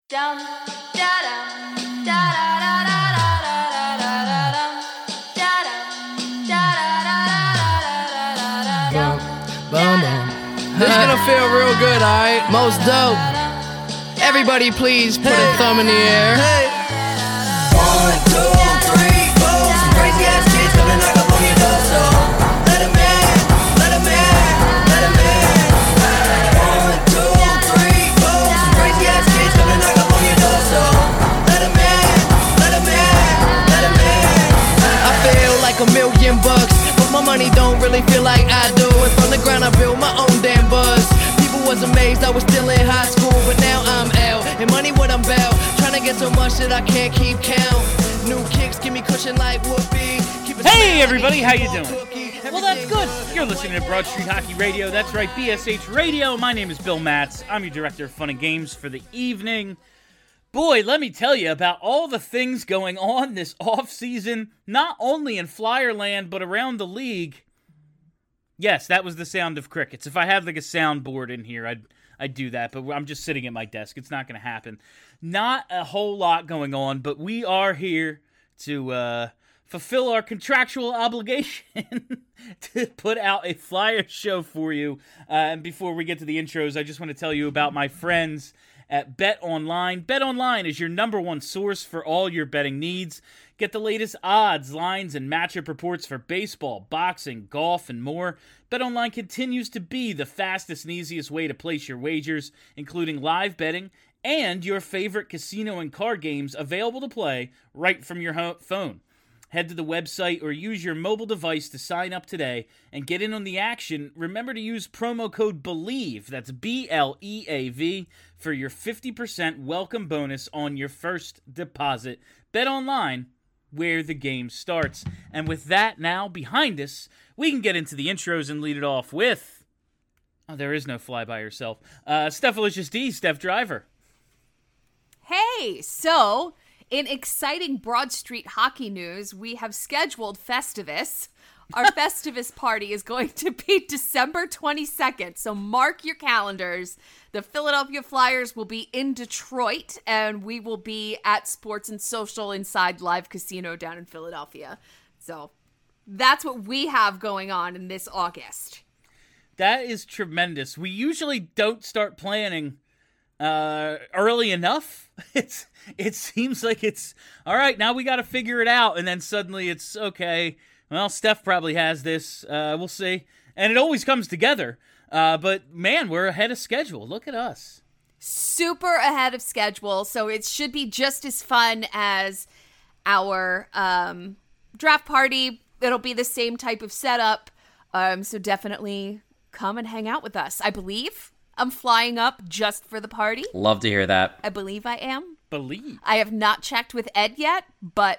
Dum da dum da da da da da da da dum da dum da da da da da da. This is gonna feel real good, alright? Most dope. Everybody please put a thumb in the air. 1, 2, 3, 4. Some crazy ass kids coming knock up on your door, so let 'em in, let 'em in, let 'em in. 1, 2, 3, 4. Some crazy ass kids coming knock up on your door, so let 'em in, let 'em in, let 'em in. I feel like $1,000,000, but my money don't really feel like I do. And from the ground I built my own damn buzz. People was amazed I was still in high school, but now I'm out. And money what I'm about, trying to get so much that I can't keep count. New kicks give me cushion like whoopee. Hey everybody, how you doing? Well, that's good. You're listening to Broad Street Hockey Radio. That's right, BSH Radio. My name is Bill Matz. I'm your director of fun and games for the evening. Boy, let me tell you about all the things going on this offseason, not only in Flyerland, but around the league. Yes, that was the sound of crickets. If I had like a soundboard in here, I'd do that, but I'm just sitting at my desk. It's not going to happen. Not a whole lot going on, but we are here to fulfill our contractual obligation to put out a Flyer show for you. And before we get to the intros, I just want to tell you about my friends at BetOnline. BetOnline is your number one source for all your betting needs. Get the latest odds, lines, and matchup reports for baseball, boxing, golf, and more. BetOnline continues to be the fastest and easiest way to place your wagers, including live betting and your favorite casino and card games available to play right from your phone. Head to the website or use your mobile device to sign up today and get in on the action. Remember to use promo code BELIEVE, that's BLEAV, for your 50% welcome bonus on your first deposit. Bet online, where the game starts. And with that now behind us, we can get into the intros and lead it off with... Oh, there is no fly by yourself. Stephalicious D, Steph Driver. Hey, so... in exciting Broad Street hockey news, we have scheduled Festivus. Our Festivus party is going to be December 22nd, so mark your calendars. The Philadelphia Flyers will be in Detroit, and we will be at Sports and Social inside Live Casino down in Philadelphia. So that's what we have going on in this August. That is tremendous. We usually don't start planning early enough. It seems like it's all right, now we got to figure it out, and then suddenly it's okay, well, Steph probably has this, we'll see, and it always comes together. But man, we're ahead of schedule. Look at us, super ahead of schedule, so it should be just as fun as our draft party. It'll be the same type of setup, so definitely come and hang out with us. I believe I'm flying up just for the party. Love to hear that. I believe I am. I have not checked with Ed yet, but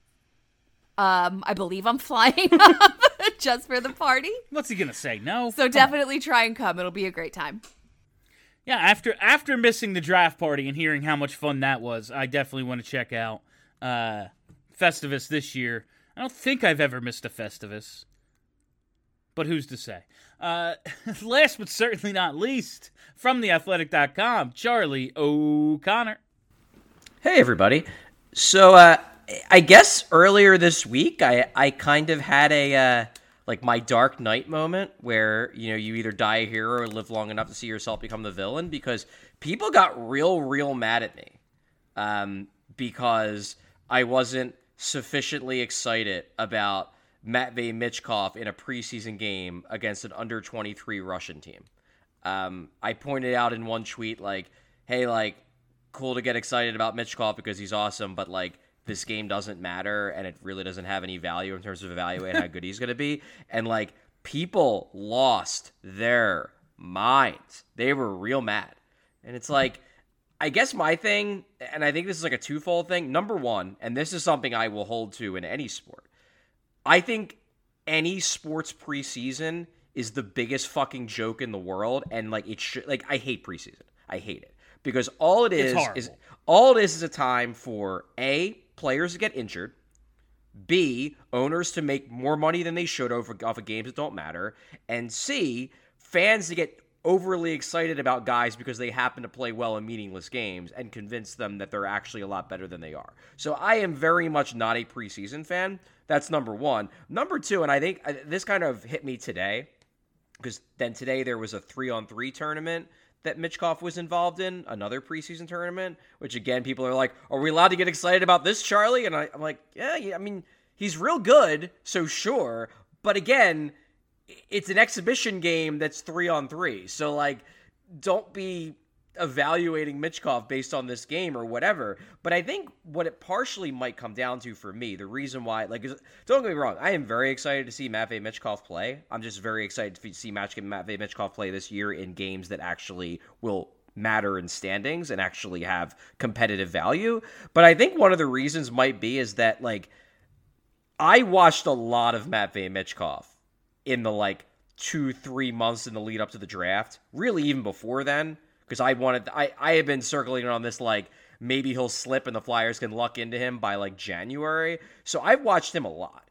I believe I'm flying up just for the party. What's he gonna say? No. So definitely try and come. It'll be a great time. Yeah, after missing the draft party and hearing how much fun that was, I definitely want to check out Festivus this year. I don't think I've ever missed a Festivus, but who's to say? Last but certainly not least, from theathletic.com, Charlie O'Connor. Hey, everybody. So, I guess earlier this week, I kind of had a, my Dark Knight moment where, you either die a hero or live long enough to see yourself become the villain, because people got real mad at me, because I wasn't sufficiently excited about Matvei Michkov in a preseason game against an under-23 Russian team. I pointed out in one tweet, hey, cool to get excited about Michkov because he's awesome, but, this game doesn't matter, and it really doesn't have any value in terms of evaluating how good he's going to be. And, people lost their minds. They were real mad. And it's I guess my thing, and I think this is a twofold thing. Number one, and this is something I will hold to in any sport, I think any sports preseason is the biggest fucking joke in the world, and it should I hate preseason. I hate it because all it is a time for A, players to get injured, B, owners to make more money than they should off of games that don't matter, and C, fans to get overly excited about guys because they happen to play well in meaningless games and convince them that they're actually a lot better than they are. So I am very much not a preseason fan. That's number one. Number two, and I think this kind of hit me today, because then today there was a 3-on-3 tournament that Michkov was involved in, another preseason tournament, which again, people are like, are we allowed to get excited about this, Charlie? And I'm like, yeah, I mean, he's real good, so sure. But again, it's an exhibition game that's 3-on-3. So, like, don't be evaluating Michkov based on this game or whatever. But I think what it partially might come down to for me, the reason why, like, don't get me wrong, I am very excited to see Matvei Michkov play. I'm just very excited to see Matvei Michkov play this year in games that actually will matter in standings and actually have competitive value. But I think one of the reasons might be is that, like, I watched a lot of Matvei Michkov in the, like, 2-3 months in the lead up to the draft, really even before then, because I had been circling on this, like, maybe he'll slip and the Flyers can luck into him by, like, January. So I've watched him a lot.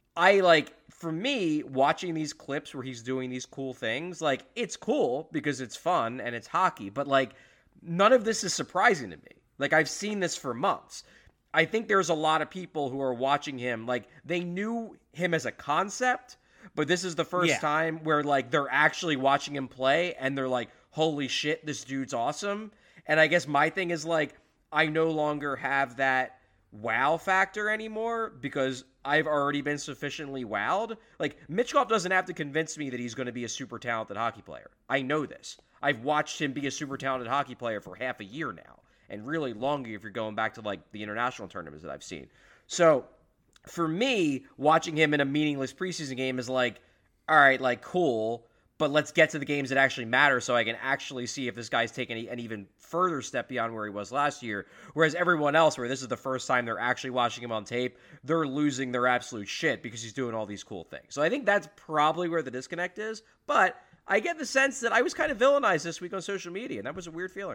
For me, watching these clips where he's doing these cool things, like, it's cool because it's fun and it's hockey, but, like, none of this is surprising to me. Like, I've seen this for months. I think there's a lot of people who are watching him, like, they knew him as a concept, but this is the first time where, like, they're actually watching him play and they're like, holy shit, this dude's awesome. And I guess my thing is, like, I no longer have that wow factor anymore because I've already been sufficiently wowed. Like, Michkov doesn't have to convince me that he's going to be a super talented hockey player. I know this. I've watched him be a super talented hockey player for half a year now, and really longer if you're going back to, like, the international tournaments that I've seen. So for me, watching him in a meaningless preseason game is like, all right, like, cool, but let's get to the games that actually matter so I can actually see if this guy's taking an even further step beyond where he was last year. Whereas everyone else, where this is the first time they're actually watching him on tape, they're losing their absolute shit because he's doing all these cool things. So I think that's probably where the disconnect is. But I get the sense that I was kind of villainized this week on social media, and that was a weird feeling.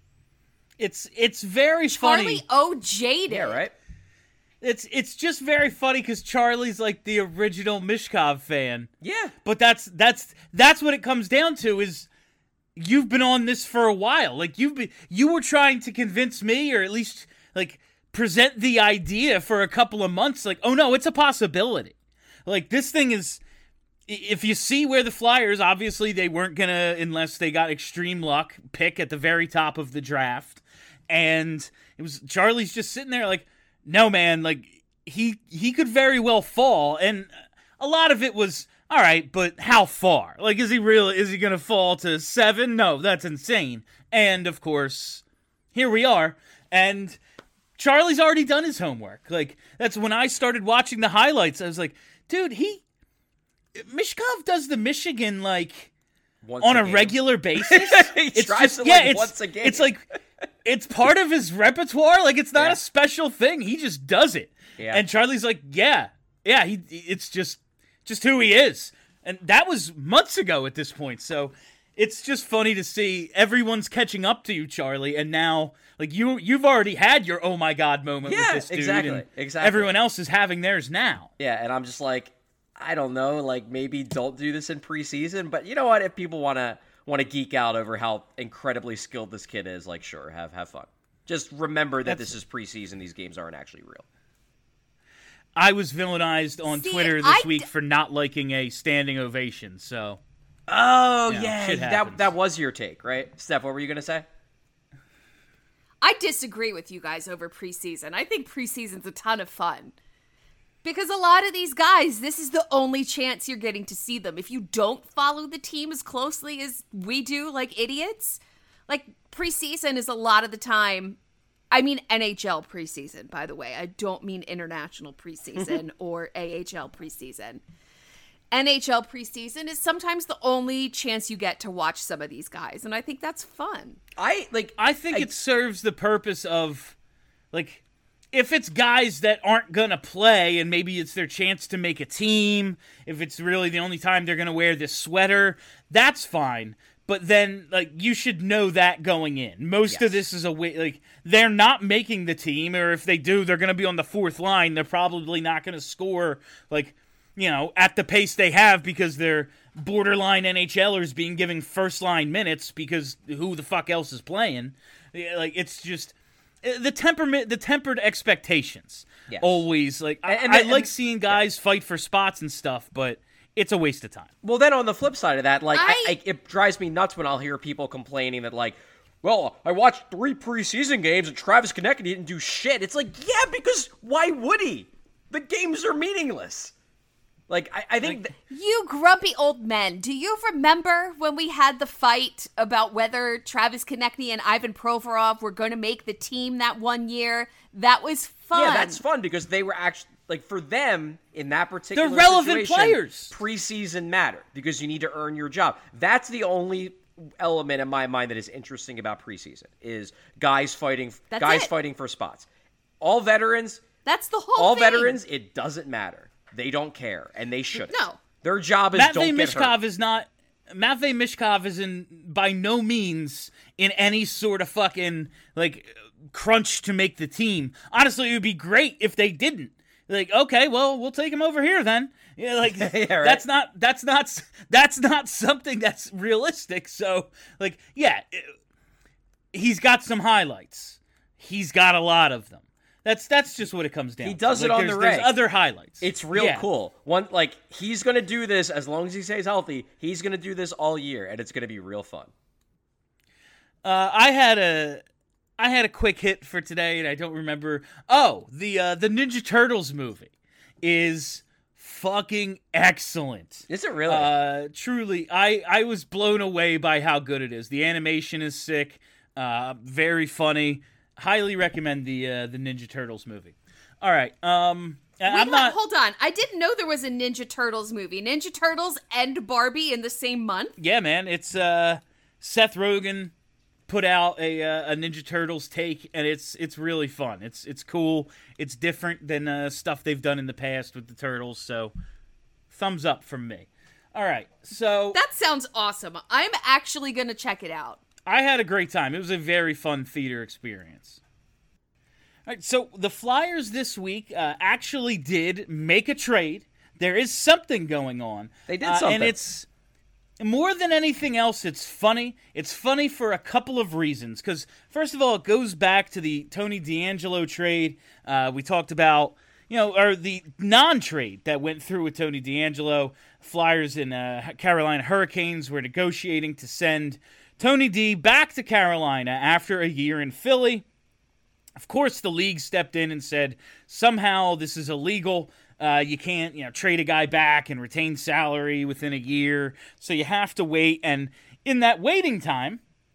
It's very funny. Charlie O'Jaden. Yeah, right? It's just very funny because Charlie's like the original Michkov fan. Yeah. But that's what it comes down to is you've been on this for a while. Like you were trying to convince me, or at least like present the idea for a couple of months. Like, oh no, it's a possibility. Like, this thing is, if you see where the Flyers, obviously they weren't gonna, unless they got extreme luck, pick at the very top of the draft. And it was Charlie's just sitting there like, no, man, like, he could very well fall, and a lot of it was, all right, but how far? Like, is he going to fall to 7? No, that's insane. And, of course, here we are, and Charlie's already done his homework. Like, that's when I started watching the highlights, I was like, dude, Michkov does the Michigan, like, Once on a game. regular basis. He tries to, like, once a game. It's like, it's part of his repertoire. Like, it's not Yeah. a special thing. He just does it. Yeah. And Charlie's like, it's just who he is. And that was months ago at this point. So it's just funny to see everyone's catching up to you, Charlie. And now, like, you've already had your oh my God moment with this dude. Exactly. And everyone else is having theirs now. Yeah, and I'm just like, I don't know, like, maybe don't do this in preseason, but you know what? If people want to geek out over how incredibly skilled this kid is, like, sure, have fun. Just remember that this is preseason; these games aren't actually real. I was villainized on Twitter this week for not liking a standing ovation. So, Oh shit happens. that was your take, right, Steph? What were you gonna say? I disagree with you guys over preseason. I think preseason's a ton of fun. Because a lot of these guys, this is the only chance you're getting to see them. If you don't follow the team as closely as we do, like idiots, like preseason is a lot of the time, I mean NHL preseason, by the way. I don't mean international preseason or AHL preseason. NHL preseason is sometimes the only chance you get to watch some of these guys, and I think that's fun. I think it serves the purpose of, like, if it's guys that aren't going to play and maybe it's their chance to make a team, if it's really the only time they're going to wear this sweater, that's fine. But then, like, you should know that going in. Most of this is a way, like, they're not making the team, or if they do, they're going to be on the fourth line. They're probably not going to score, like, you know, at the pace they have because they're borderline NHLers being given first line minutes because who the fuck else is playing? Like, it's just the tempered expectations. Yes. Always like I like seeing guys fight for spots and stuff, but it's a waste of time. Well, then on the flip side of that, like it drives me nuts when I'll hear people complaining that like, well, I watched 3 preseason games and Travis Konecny didn't do shit. It's like, yeah, because why would he? The games are meaningless. Like, I think... You grumpy old men, do you remember when we had the fight about whether Travis Konecny and Ivan Provorov were going to make the team that one year? That was fun. Yeah, that's fun because they were actually... Like, for them, in that particular They're relevant situation, players. Preseason mattered because you need to earn your job. That's the only element in my mind that is interesting about preseason, is guys fighting for spots. All veterans... That's the whole all thing. All veterans, it doesn't matter. They don't care, and they shouldn't. No. Their job is don't get hurt. Matvei Mishkov is by no means in any sort of fucking, like, crunch to make the team. Honestly, it would be great if they didn't. Like, okay, well, we'll take him over here then. Yeah, like, yeah, right. that's not something that's realistic. So, like, yeah, he's got some highlights. He's got a lot of them. That's just what it comes down to. He does it on the reg. There's other highlights. It's real cool. He's going to do this as long as he stays healthy. He's going to do this all year, and it's going to be real fun. I had a quick hit for today, and I don't remember. Oh, the Ninja Turtles movie is fucking excellent. Is it really? Truly, I was blown away by how good it is. The animation is sick, very funny. Highly recommend the Ninja Turtles movie. All right. Hold on. I didn't know there was a Ninja Turtles movie. Ninja Turtles and Barbie in the same month? Yeah, man. It's Seth Rogen put out a Ninja Turtles take, and it's really fun. It's cool. It's different than stuff they've done in the past with the Turtles. So, thumbs up from me. All right. So that sounds awesome. I'm actually gonna check it out. I had a great time. It was a very fun theater experience. All right, so the Flyers this week actually did make a trade. There is something going on. They did something. And it's, more than anything else, it's funny. It's funny for a couple of reasons. Because, first of all, it goes back to the Tony DeAngelo trade. We talked about, or the non-trade that went through with Tony DeAngelo. Flyers and Carolina Hurricanes were negotiating to send Tony D back to Carolina after a year in Philly. Of course, the league stepped in and said, somehow this is illegal. You can't, trade a guy back and retain salary within a year. So you have to wait. And in that waiting time,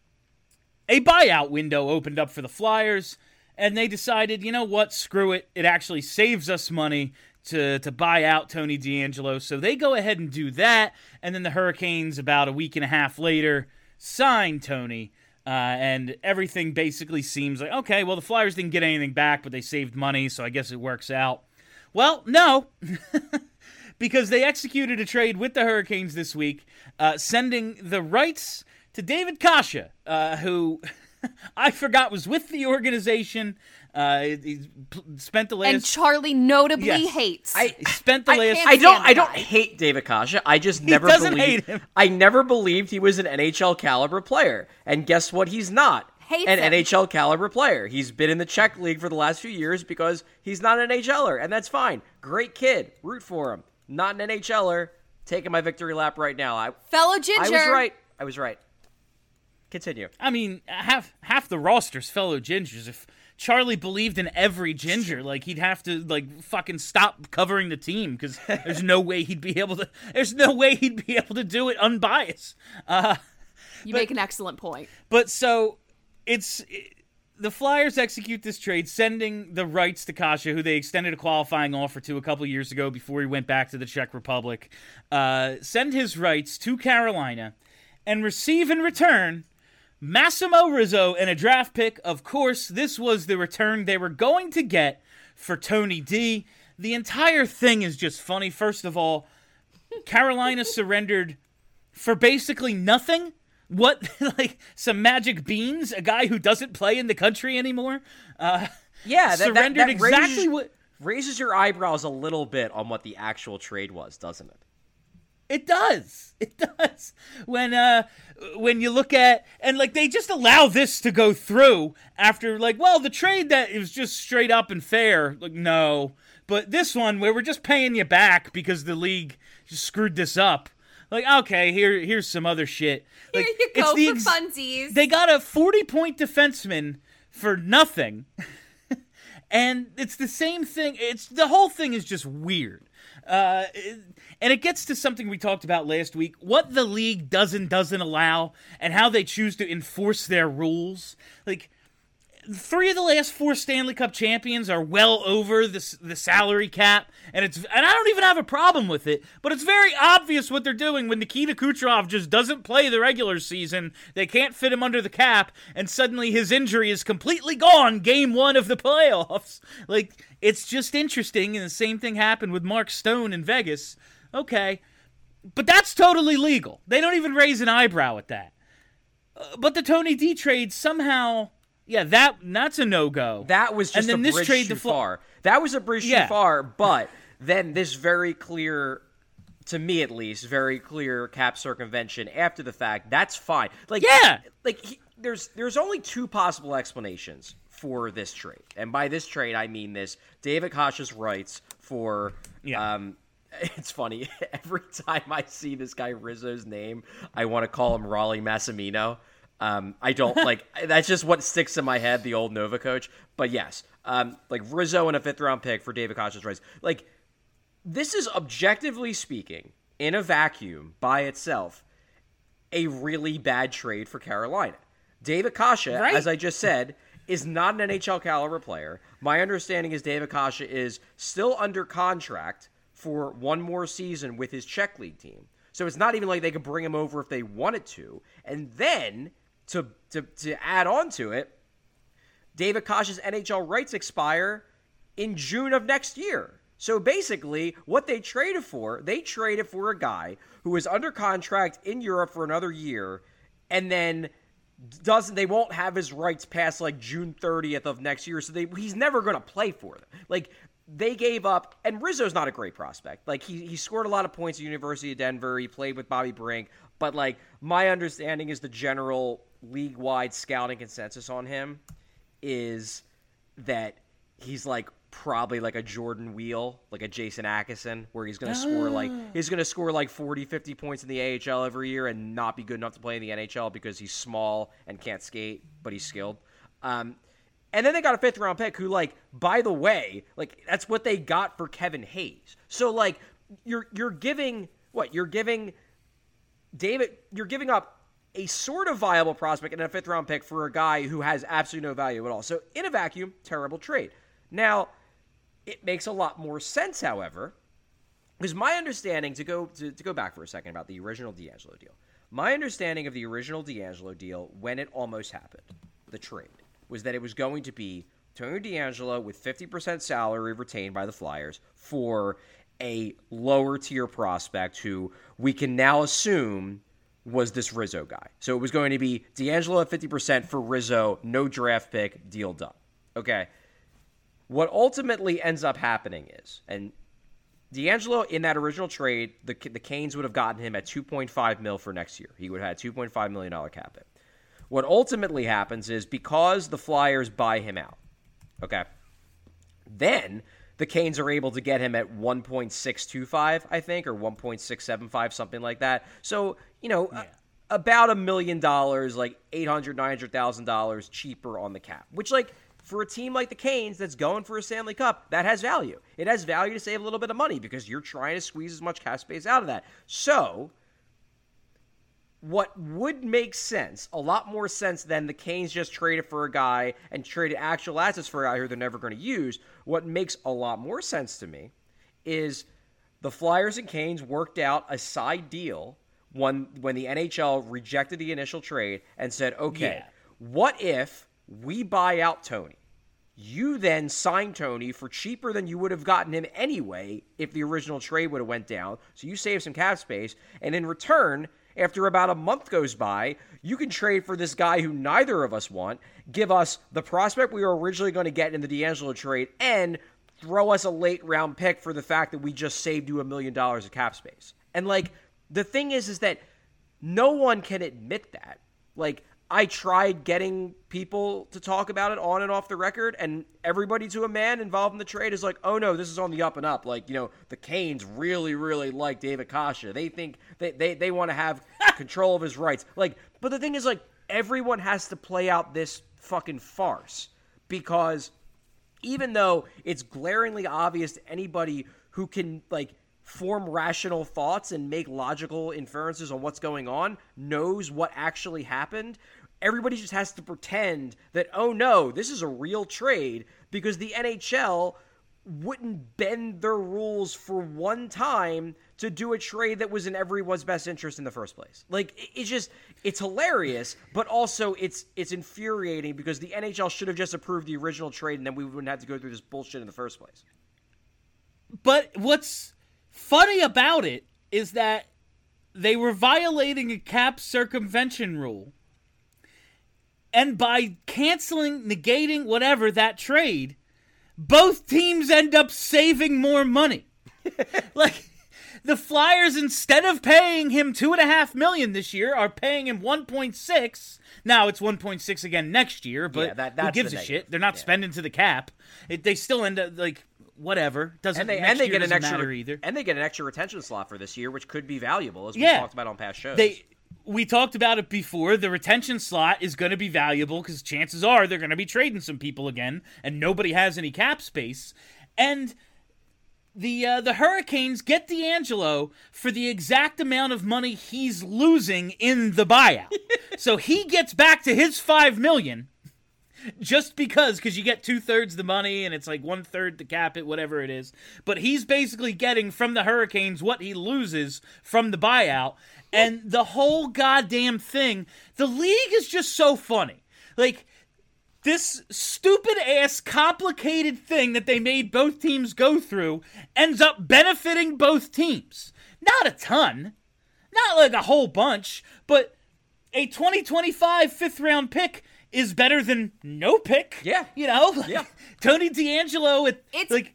a buyout window opened up for the Flyers. And they decided, you know what, screw it. It actually saves us money to buy out Tony DeAngelo. So they go ahead and do that. And then the Hurricanes, about a week and a half later, sign Tony, and everything basically seems like, okay, well, the Flyers didn't get anything back, but they saved money, so I guess it works out. Well, no, because they executed a trade with the Hurricanes this week, sending the rights to David Kasha, who I forgot was with the organization. He spent the last... And Charlie notably hates. I don't hate David Kasha. I just never hate him. I never believed he was an NHL caliber player. And guess what? He's not an NHL caliber player. He's been in the Czech league for the last few years because he's not an NHLer, and that's fine. Great kid. Root for him. Not an NHLer. Taking my victory lap right now. Fellow Ginger. I was right. Continue. I mean, half the roster's fellow Gingers. If Charlie believed in every Ginger, like, he'd have to, like, fucking stop covering the team because there's no way he'd be able to. There's no way he'd be able to do it unbiased. You make an excellent point. But so the Flyers execute this trade, sending the rights to Kasha, who they extended a qualifying offer to a couple years ago before he went back to the Czech Republic. Send his rights to Carolina and receive in return Massimo Rizzo and a draft pick. Of course, this was the return they were going to get for Tony D. The entire thing is just funny. First of all, Carolina surrendered for basically nothing. What, like, some magic beans? A guy who doesn't play in the country anymore? Surrendered exactly what... Raises your eyebrows a little bit on what the actual trade was, doesn't it? It does. It does. When you look at, and like they just allow this to go through after like, well, the trade that is just straight up and fair, like no. But this one where we're just paying you back because the league just screwed this up. Like, okay, here's some other shit. Like, Here you go it's for funsies. They got a 40-point defenseman for nothing. And it's the same thing. The whole thing is just weird. And it gets to something we talked about last week, what the league doesn't allow and how they choose to enforce their rules. Like, 3 of the last 4 Stanley Cup champions are well over the salary cap, and I don't even have a problem with it, but it's very obvious what they're doing when Nikita Kucherov just doesn't play the regular season, they can't fit him under the cap, and suddenly his injury is completely gone game 1 of the playoffs. Like, it's just interesting, and the same thing happened with Mark Stone in Vegas. Okay, but that's totally legal. They don't even raise an eyebrow at that. But the Tony D trade somehow... Yeah, that's a no-go. That was just a bridge too far. That was a bridge too far, but then this very clear, to me at least, very clear cap circumvention after the fact, that's fine. Like, yeah! There's only 2 possible explanations for this trade. And by this trade, I mean this. David Kasha's rights for... It's funny. Every time I see this guy Rizzo's name, I want to call him Raleigh Massimino. I don't like, that's just what sticks in my head, the old Nova coach. But yes, like Rizzo and a 5th round pick for David Kasha's rights. Like, this is objectively speaking, in a vacuum by itself, a really bad trade for Carolina. David Kasha, as I just said, is not an NHL caliber player. My understanding is David Kasha is still under contract for 1 more season with his Czech League team. So it's not even like they could bring him over if they wanted to. And then, to add on to it, David Kasha's NHL rights expire in June of next year. So basically, what they traded for a guy who is under contract in Europe for another year, and then they won't have his rights past like June 30th of next year. So he's never going to play for them. Like, they gave up, and Rizzo's not a great prospect. Like, he scored a lot of points at University of Denver. He played with Bobby Brink. But, like, my understanding is the general league-wide scouting consensus on him is that he's, like, probably like a Jordan Wheel, like a Jason Atkinson, where he's going to score like 40, 50 points in the AHL every year and not be good enough to play in the NHL because he's small and can't skate, but he's skilled. And then they got a 5th round pick who, like, by the way, like, that's what they got for Kevin Hayes. So, like, you're giving up a sort of viable prospect and a 5th round pick for a guy who has absolutely no value at all. So, in a vacuum, terrible trade. Now, it makes a lot more sense, however, because my understanding, to go back for a second about the original DeAngelo deal, my understanding of the original DeAngelo deal when it almost happened, the trade, was that it was going to be Tony DeAngelo with 50% salary retained by the Flyers for a lower tier prospect who we can now assume was this Rizzo guy. So it was going to be DeAngelo at 50% for Rizzo, no draft pick, deal done. Okay. What ultimately ends up happening is, and DeAngelo in that original trade, the Canes would have gotten him at $2.5 million for next year. He would have had a $2.5 million cap hit. What ultimately happens is because the Flyers buy him out, okay, then the Canes are able to get him at 1.625, I think, or 1.675, something like that. So, about $1 million, like $800,000, $900,000 cheaper on the cap, which, like, for a team like the Canes that's going for a Stanley Cup, that has value. It has value to save a little bit of money because you're trying to squeeze as much cap space out of that. So what would make sense, a lot more sense than the Canes just traded for a guy and traded actual assets for a guy who they're never going to use, what makes a lot more sense to me is the Flyers and Canes worked out a side deal when the NHL rejected the initial trade and said, okay, what if we buy out Tony? You then sign Tony for cheaper than you would have gotten him anyway if the original trade would have went down. So you save some cap space. And in return, after about a month goes by, you can trade for this guy who neither of us want, give us the prospect we were originally going to get in the DeAngelo trade, and throw us a late round pick for the fact that we just saved you $1 million of cap space. And, like, the thing is that no one can admit that. Like, I tried getting people to talk about it on and off the record, and everybody to a man involved in the trade is like, oh no, this is on the up and up. Like, the Canes really, really like David Kasha. They think they want to have control of his rights. Like, but the thing is, like, everyone has to play out this fucking farce, because even though it's glaringly obvious to anybody who can, like, form rational thoughts and make logical inferences on what's going on, knows what actually happened, everybody just has to pretend that, oh no, this is a real trade, because the NHL wouldn't bend their rules for one time to do a trade that was in everyone's best interest in the first place. Like, it's hilarious, but also it's infuriating, because the NHL should have just approved the original trade, and then we wouldn't have to go through this bullshit in the first place. But what's funny about it is that they were violating a cap circumvention rule, and by negating whatever that trade, both teams end up saving more money. Like, the Flyers, instead of paying him $2.5 million this year, are paying him 1.6. Now it's 1.6 again next year, but that's who gives a shit? They're not spending to the cap. They still end up, like, whatever. Doesn't matter either. And they get an extra retention slot for this year, which could be valuable, as we talked about on past shows. We talked about it before. The retention slot is going to be valuable because chances are they're going to be trading some people again, and nobody has any cap space. And the Hurricanes get D'Angelo for the exact amount of money he's losing in the buyout. So he gets back to his $5 million. Just because you get 2/3 the money and it's like 1/3 the cap it, whatever it is. But he's basically getting from the Hurricanes what he loses from the buyout. And the whole goddamn thing, the league is just so funny. Like, this stupid-ass, complicated thing that they made both teams go through ends up benefiting both teams. Not a ton. Not like a whole bunch. But a 2025 fifth-round pick is better than no pick. Yeah. Yeah. Tony D'Angelo at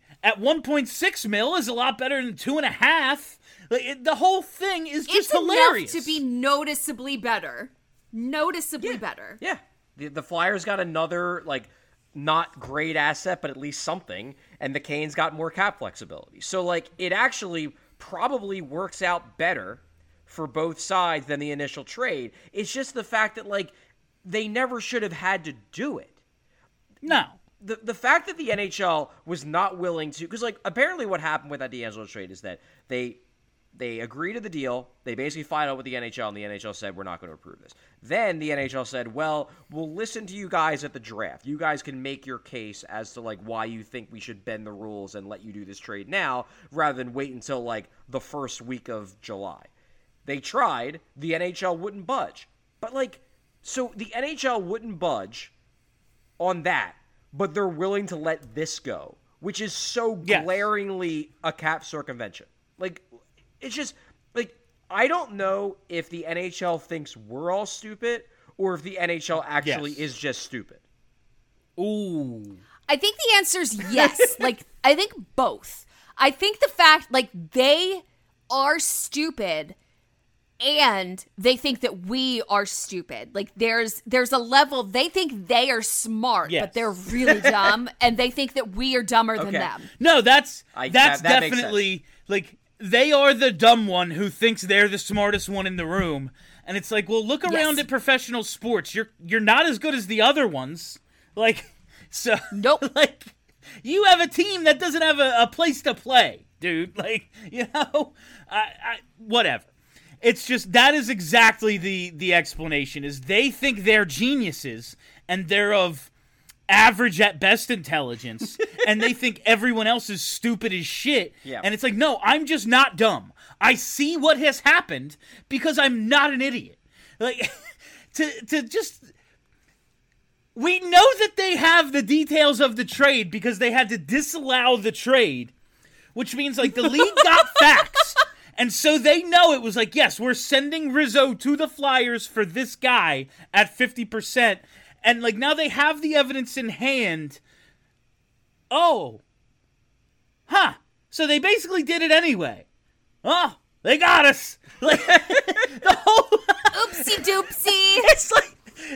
1.6 mil is a lot better than 2.5. Like, the whole thing is just hilarious. It's enough to be noticeably better. Better. Yeah. The Flyers got another, like, not great asset, but at least something, and the Canes got more cap flexibility. So, like, it actually probably works out better for both sides than the initial trade. It's just the fact that, like, they never should have had to do it. No. The fact that the NHL was not willing to... Because, like, apparently what happened with that D'Angelo trade is that they agreed to the deal. They basically filed out with the NHL, and the NHL said, we're not going to approve this. Then the NHL said, well, we'll listen to you guys at the draft. You guys can make your case as to, like, why you think we should bend the rules and let you do this trade now, rather than wait until, like, the first week of July. They tried. The NHL wouldn't budge. But, like... So the NHL wouldn't budge on that, but they're willing to let this go, which is so glaringly a cap circumvention. Like, it's just, like, I don't know if the NHL thinks we're all stupid or if the NHL actually is just stupid. Ooh. I think the answer is yes. Like, I think both. I think the fact, like, they are stupid and they think that we are stupid. Like, there's a level, they think they are smart, but they're really dumb, and they think that we are dumber than them. No, that's definitely, like, they are the dumb one who thinks they're the smartest one in the room. And it's like, well, look around at professional sports. You're not as good as the other ones. Like, so, nope. Like, you have a team that doesn't have a place to play, dude. Like, whatever. It's just, that is exactly the explanation, is they think they're geniuses, and they're of average at best intelligence, and they think everyone else is stupid as shit. Yeah. And it's like, no, I'm just not dumb. I see what has happened because I'm not an idiot. Like, to just... We know that they have the details of the trade because they had to disallow the trade, which means, like, the league got facts. And so they know it was like, yes, we're sending Rizzo to the Flyers for this guy at 50%. And, like, now they have the evidence in hand. Oh. Huh. So they basically did it anyway. Oh. They got us. Like the whole Oopsie doopsie. it's like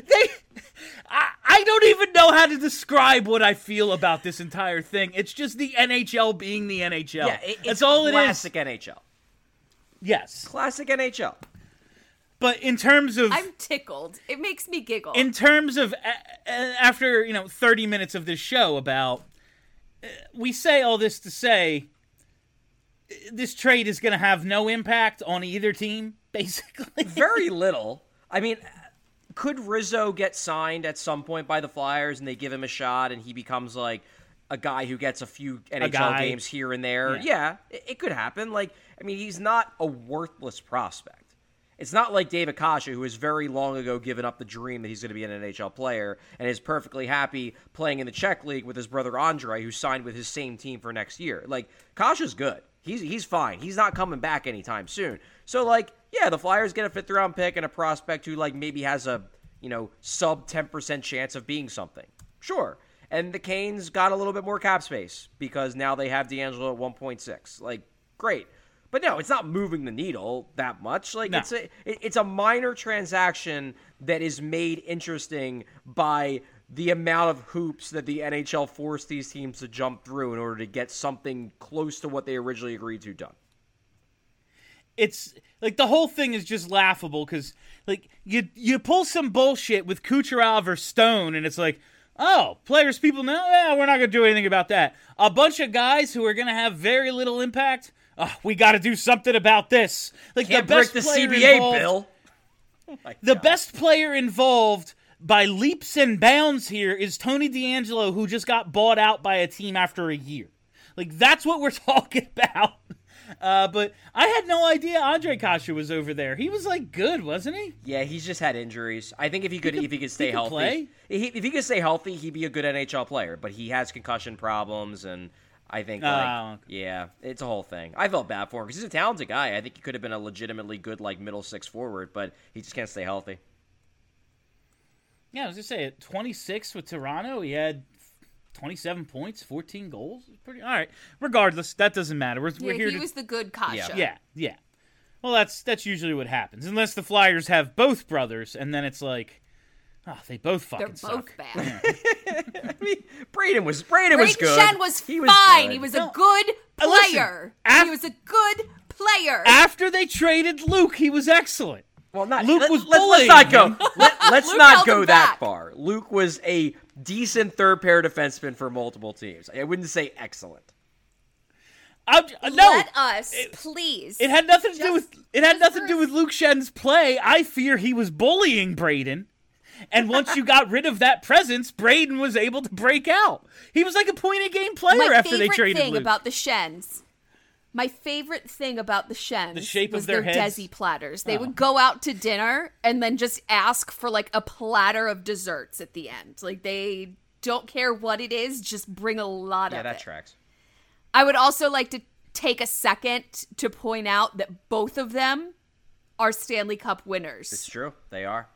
I don't even know how to describe what I feel about this entire thing. It's just the NHL being the NHL. Yeah, it's that's all it is. classic NHL. Yes. Classic NHL. But in terms of I'm tickled. It makes me giggle. in terms of after 30 minutes of this show about we say all this to say this trade is going to have no impact on either team basically. Very little. I mean, could Rizzo get signed at some point by the Flyers and they give him a shot and he becomes like a guy who gets a few NHL games here and there? Yeah, it could happen. Like, I mean, he's not a worthless prospect. It's not like David Kasha, who has very long ago given up the dream that he's going to be an NHL player and is perfectly happy playing in the Czech League with his brother Andre, who signed with his same team for next year. Like, Kasha's good. He's fine. He's not coming back anytime soon. So, like, yeah, the Flyers get a fifth-round pick and a prospect who, like, maybe has a, sub 10% chance of being something. Sure. And the Canes got a little bit more cap space because now they have DeAngelo at 1.6. Like, great. But no, it's not moving the needle that much. Like, no. It's a minor transaction that is made interesting by the amount of hoops that the NHL forced these teams to jump through in order to get something close to what they originally agreed to done. It's like the whole thing is just laughable because like you pull some bullshit with Kucherov or Stone and it's like, oh, players people know, we're not going to do anything about that. A bunch of guys who are going to have very little impact, we got to do something about this. Like Can't the best break the player CBA, involved, Bill. The best player involved by leaps and bounds here is Tony DeAngelo, who just got bought out by a team after a year. Like, that's what we're talking about. But I had no idea Andre Kasha was over there. He was, like, good, wasn't he? Yeah, he's just had injuries. I think if he could stay healthy, if he could stay healthy, he'd be a good NHL player. But he has concussion problems, and I think, yeah, it's a whole thing. I felt bad for him because he's a talented guy. I think he could have been a legitimately good, like, middle six forward, but he just can't stay healthy. Yeah, I was going to say, at 26 with Toronto, he had 27 points, 14 goals. Pretty all right. Regardless, that doesn't matter. We're here. He was the good Kasha. Yeah. Well, that's usually what happens, unless the Flyers have both brothers, and then it's like, they both fucking suck. They're both bad. I mean, Braden was good. Schenn was fine. He was a good player. He was a good player. After they traded Luke, he was excellent. Well, Luke was let's not go. Let's Luke not held go him that back. far. Luke was a decent third pair defenseman for multiple teams. I wouldn't say excellent. Let us, please. It had nothing to do with Luke Schenn's play. I fear he was bullying Braden. And once you got rid of that presence, Braden was able to break out. He was like a point-a-game player after they traded Luke. My favorite thing about the Schenns the shape was of their heads. Desi platters. They would go out to dinner and then just ask for like a platter of desserts at the end. Like they don't care what it is, just bring a lot of it. Yeah, that tracks. I would also like to take a second to point out that both of them are Stanley Cup winners. It's true. They are.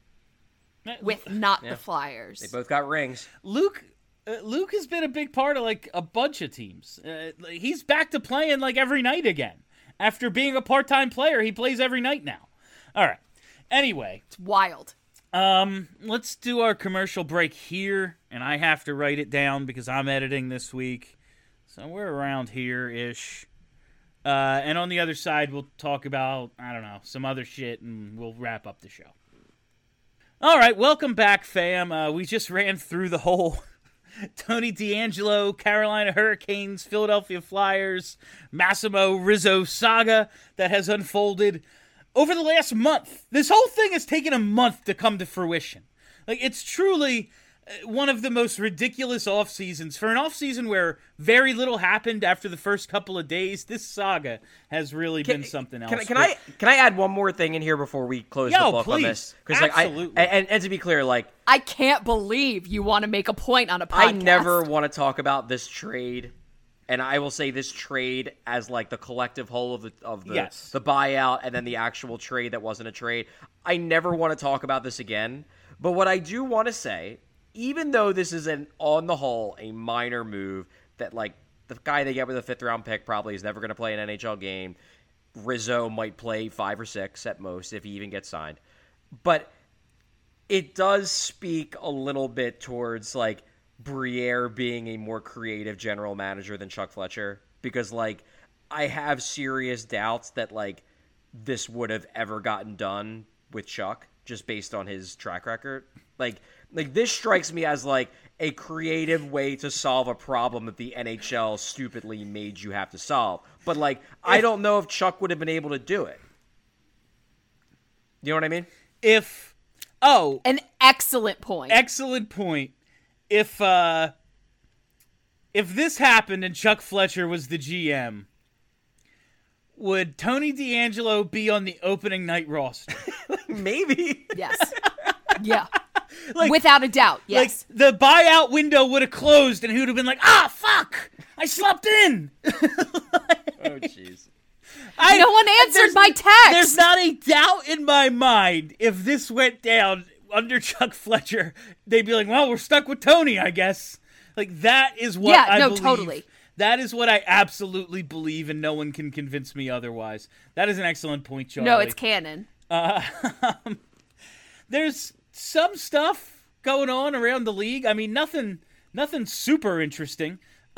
With not the Flyers. They both got rings. Luke has been a big part of like a bunch of teams. He's back to playing like every night again. After being a part-time player, he plays every night now. All right. Anyway, it's wild. Let's do our commercial break here, and I have to write it down because I'm editing this week. So we're around here-ish. And on the other side, we'll talk about, I don't know, some other shit, and we'll wrap up the show. All right, welcome back, fam. We just ran through the whole Tony DeAngelo, Carolina Hurricanes, Philadelphia Flyers, Massimo Rizzo saga that has unfolded over the last month. This whole thing has taken a month to come to fruition. Like, it's truly one of the most ridiculous off seasons. For an off season where very little happened after the first couple of days, this saga has really been something else. Can I add one more thing in here before we close the book on this? Absolutely. And to be clear, like, I can't believe you want to make a point on a podcast. I never want to talk about this trade, and I will say this trade as like the collective whole of the buyout and then the actual trade that wasn't a trade. I never want to talk about this again. But what I do want to say, even though this is on the whole a minor move that like the guy they get with a 5th round pick probably is never going to play an NHL game, Rizzo might play 5 or 6 at most if he even gets signed. But it does speak a little bit towards, like, Briere being a more creative general manager than Chuck Fletcher. Because, like, I have serious doubts that, like, this would have ever gotten done with Chuck, just based on his track record. Like this strikes me as, like, a creative way to solve a problem that the NHL stupidly made you have to solve. But, like, I don't know if Chuck would have been able to do it. You know what I mean? An excellent point. Excellent point. If this happened and Chuck Fletcher was the GM, would Tony DeAngelo be on the opening night roster? Maybe. Yes. Yeah. Like, without a doubt, yes. Like, the buyout window would have closed and he would have been like, fuck! I slept in! Oh, jeez. No one answered my text! There's not a doubt in my mind if this went down under Chuck Fletcher, they'd be like, well, we're stuck with Tony, I guess. Like, that is what I believe. Totally. That is what I absolutely believe, and no one can convince me otherwise. That is an excellent point, Charlie. No, it's canon. There's some stuff going on around the league. I mean, nothing super interesting.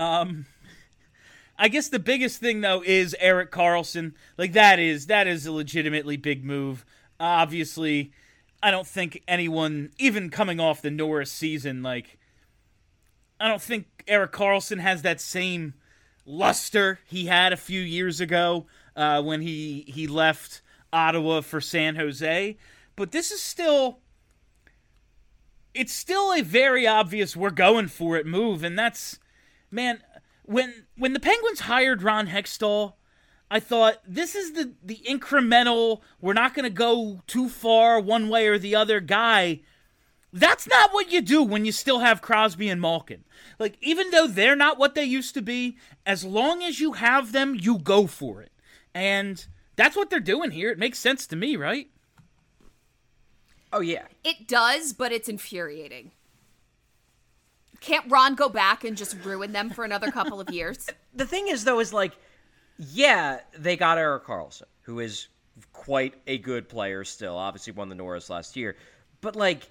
I guess the biggest thing, though, is Erik Karlsson. Like, that is a legitimately big move. Obviously, I don't think anyone, even coming off the Norris season, like, I don't think Erik Karlsson has that same luster he had a few years ago when he left Ottawa for San Jose. But this is still a very obvious we're going for it move. And that's, man, when the Penguins hired Ron Hextall, I thought, this is the incremental, we're not going to go too far one way or the other guy. That's not what you do when you still have Crosby and Malkin. Like, even though they're not what they used to be, as long as you have them, you go for it. And that's what they're doing here. It makes sense to me, right? Oh, yeah. It does, but it's infuriating. Can't Ron go back and just ruin them for another couple of years? The thing is, though, is, like, yeah, they got Erik Karlsson, who is quite a good player still. Obviously won the Norris last year. But, like,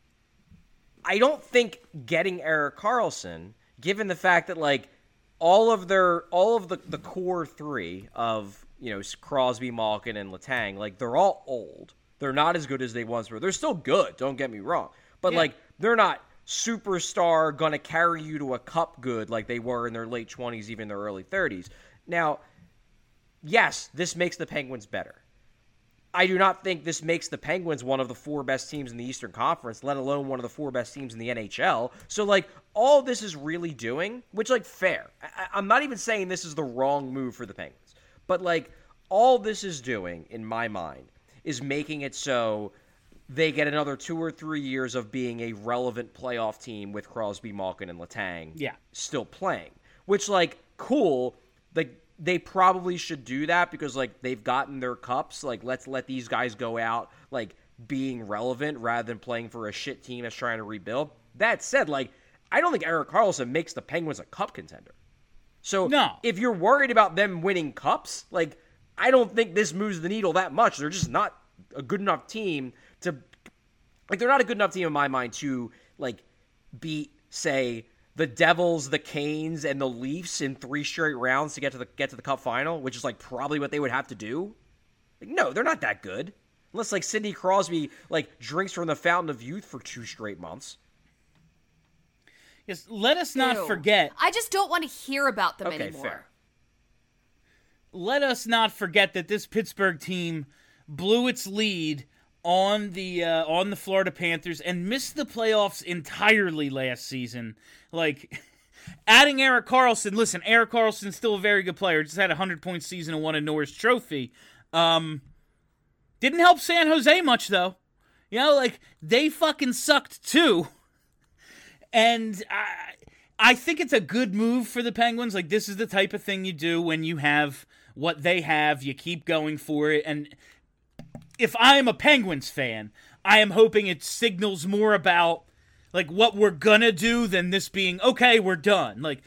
I don't think getting Erik Karlsson, given the fact that, like, all of the core three of, you know, Crosby, Malkin, and Letang, like, they're all old. They're not as good as they once were. They're still good, don't get me wrong. But, like, they're not superstar, gonna carry you to a cup good like they were in their late 20s, even their early 30s. Now, yes, this makes the Penguins better. I do not think this makes the Penguins one of the 4 best teams in the Eastern Conference, let alone one of the 4 best teams in the NHL. So, like, all this is really doing, which, like, fair. I'm not even saying this is the wrong move for the Penguins. But, like, all this is doing, in my mind, is making it so they get another 2 or 3 years of being a relevant playoff team with Crosby, Malkin, and Letang still playing. Which, like, cool. Like, they probably should do that because, like, they've gotten their cups. Like, let's let these guys go out, like, being relevant rather than playing for a shit team that's trying to rebuild. That said, like, I don't think Erik Karlsson makes the Penguins a cup contender. So, if you're worried about them winning cups, like, I don't think this moves the needle that much. They're just not a good enough team to, like, they're not a good enough team in my mind to, like, beat, say, the Devils, the Canes, and the Leafs in 3 straight rounds to get to the Cup final, which is, like, probably what they would have to do. Like, no, they're not that good. Unless, like, Sidney Crosby, like, drinks from the fountain of youth for 2 straight months. Yes, let us not forget. I just don't want to hear about them anymore. Fair. Let us not forget that this Pittsburgh team blew its lead on the Florida Panthers and missed the playoffs entirely last season. Like, adding Erik Karlsson, listen, Erik Karlsson's still a very good player. Just had a 100-point season and won a Norris Trophy. Didn't help San Jose much, though. You know, like, they fucking sucked, too. And I think it's a good move for the Penguins. Like, this is the type of thing you do when you have what they have. You keep going for it. And if I am a Penguins fan, I am hoping it signals more about, like, what we're gonna do than this being, okay, we're done. Like,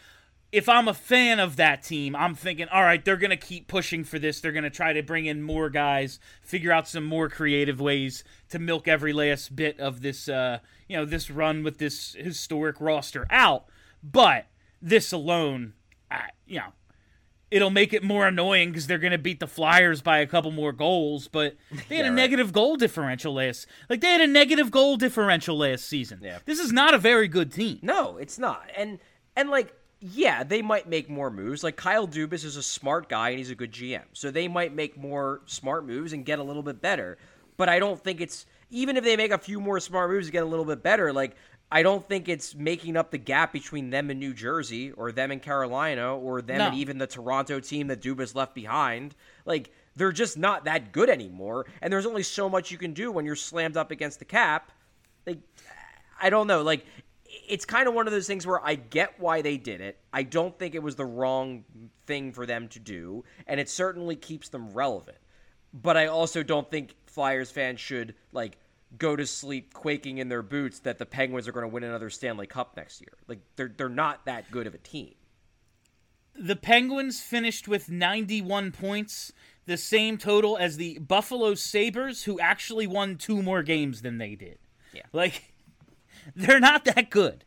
if I'm a fan of that team, I'm thinking, all right, they're going to keep pushing for this. They're going to try to bring in more guys, figure out some more creative ways to milk every last bit of this, this run with this historic roster out. But this alone, it'll make it more annoying because they're going to beat the Flyers by a couple more goals. But they had a negative goal differential last. Like, they had a negative goal differential last season. Yeah. This is not a very good team. No, it's not. And like, yeah, they might make more moves. Like, Kyle Dubas is a smart guy and he's a good GM. So they might make more smart moves and get a little bit better. But I don't think it's, even if they make a few more smart moves to get a little bit better, like, I don't think it's making up the gap between them and New Jersey or them and Carolina or them and even the Toronto team that Dubas left behind. Like, they're just not that good anymore. And there's only so much you can do when you're slammed up against the cap. Like, I don't know. Like, it's kind of one of those things where I get why they did it. I don't think it was the wrong thing for them to do, and it certainly keeps them relevant. But I also don't think Flyers fans should, like, go to sleep quaking in their boots that the Penguins are going to win another Stanley Cup next year. Like, they're not that good of a team. The Penguins finished with 91 points, the same total as the Buffalo Sabres, who actually won 2 more games than they did. Yeah. Like, they're not that good.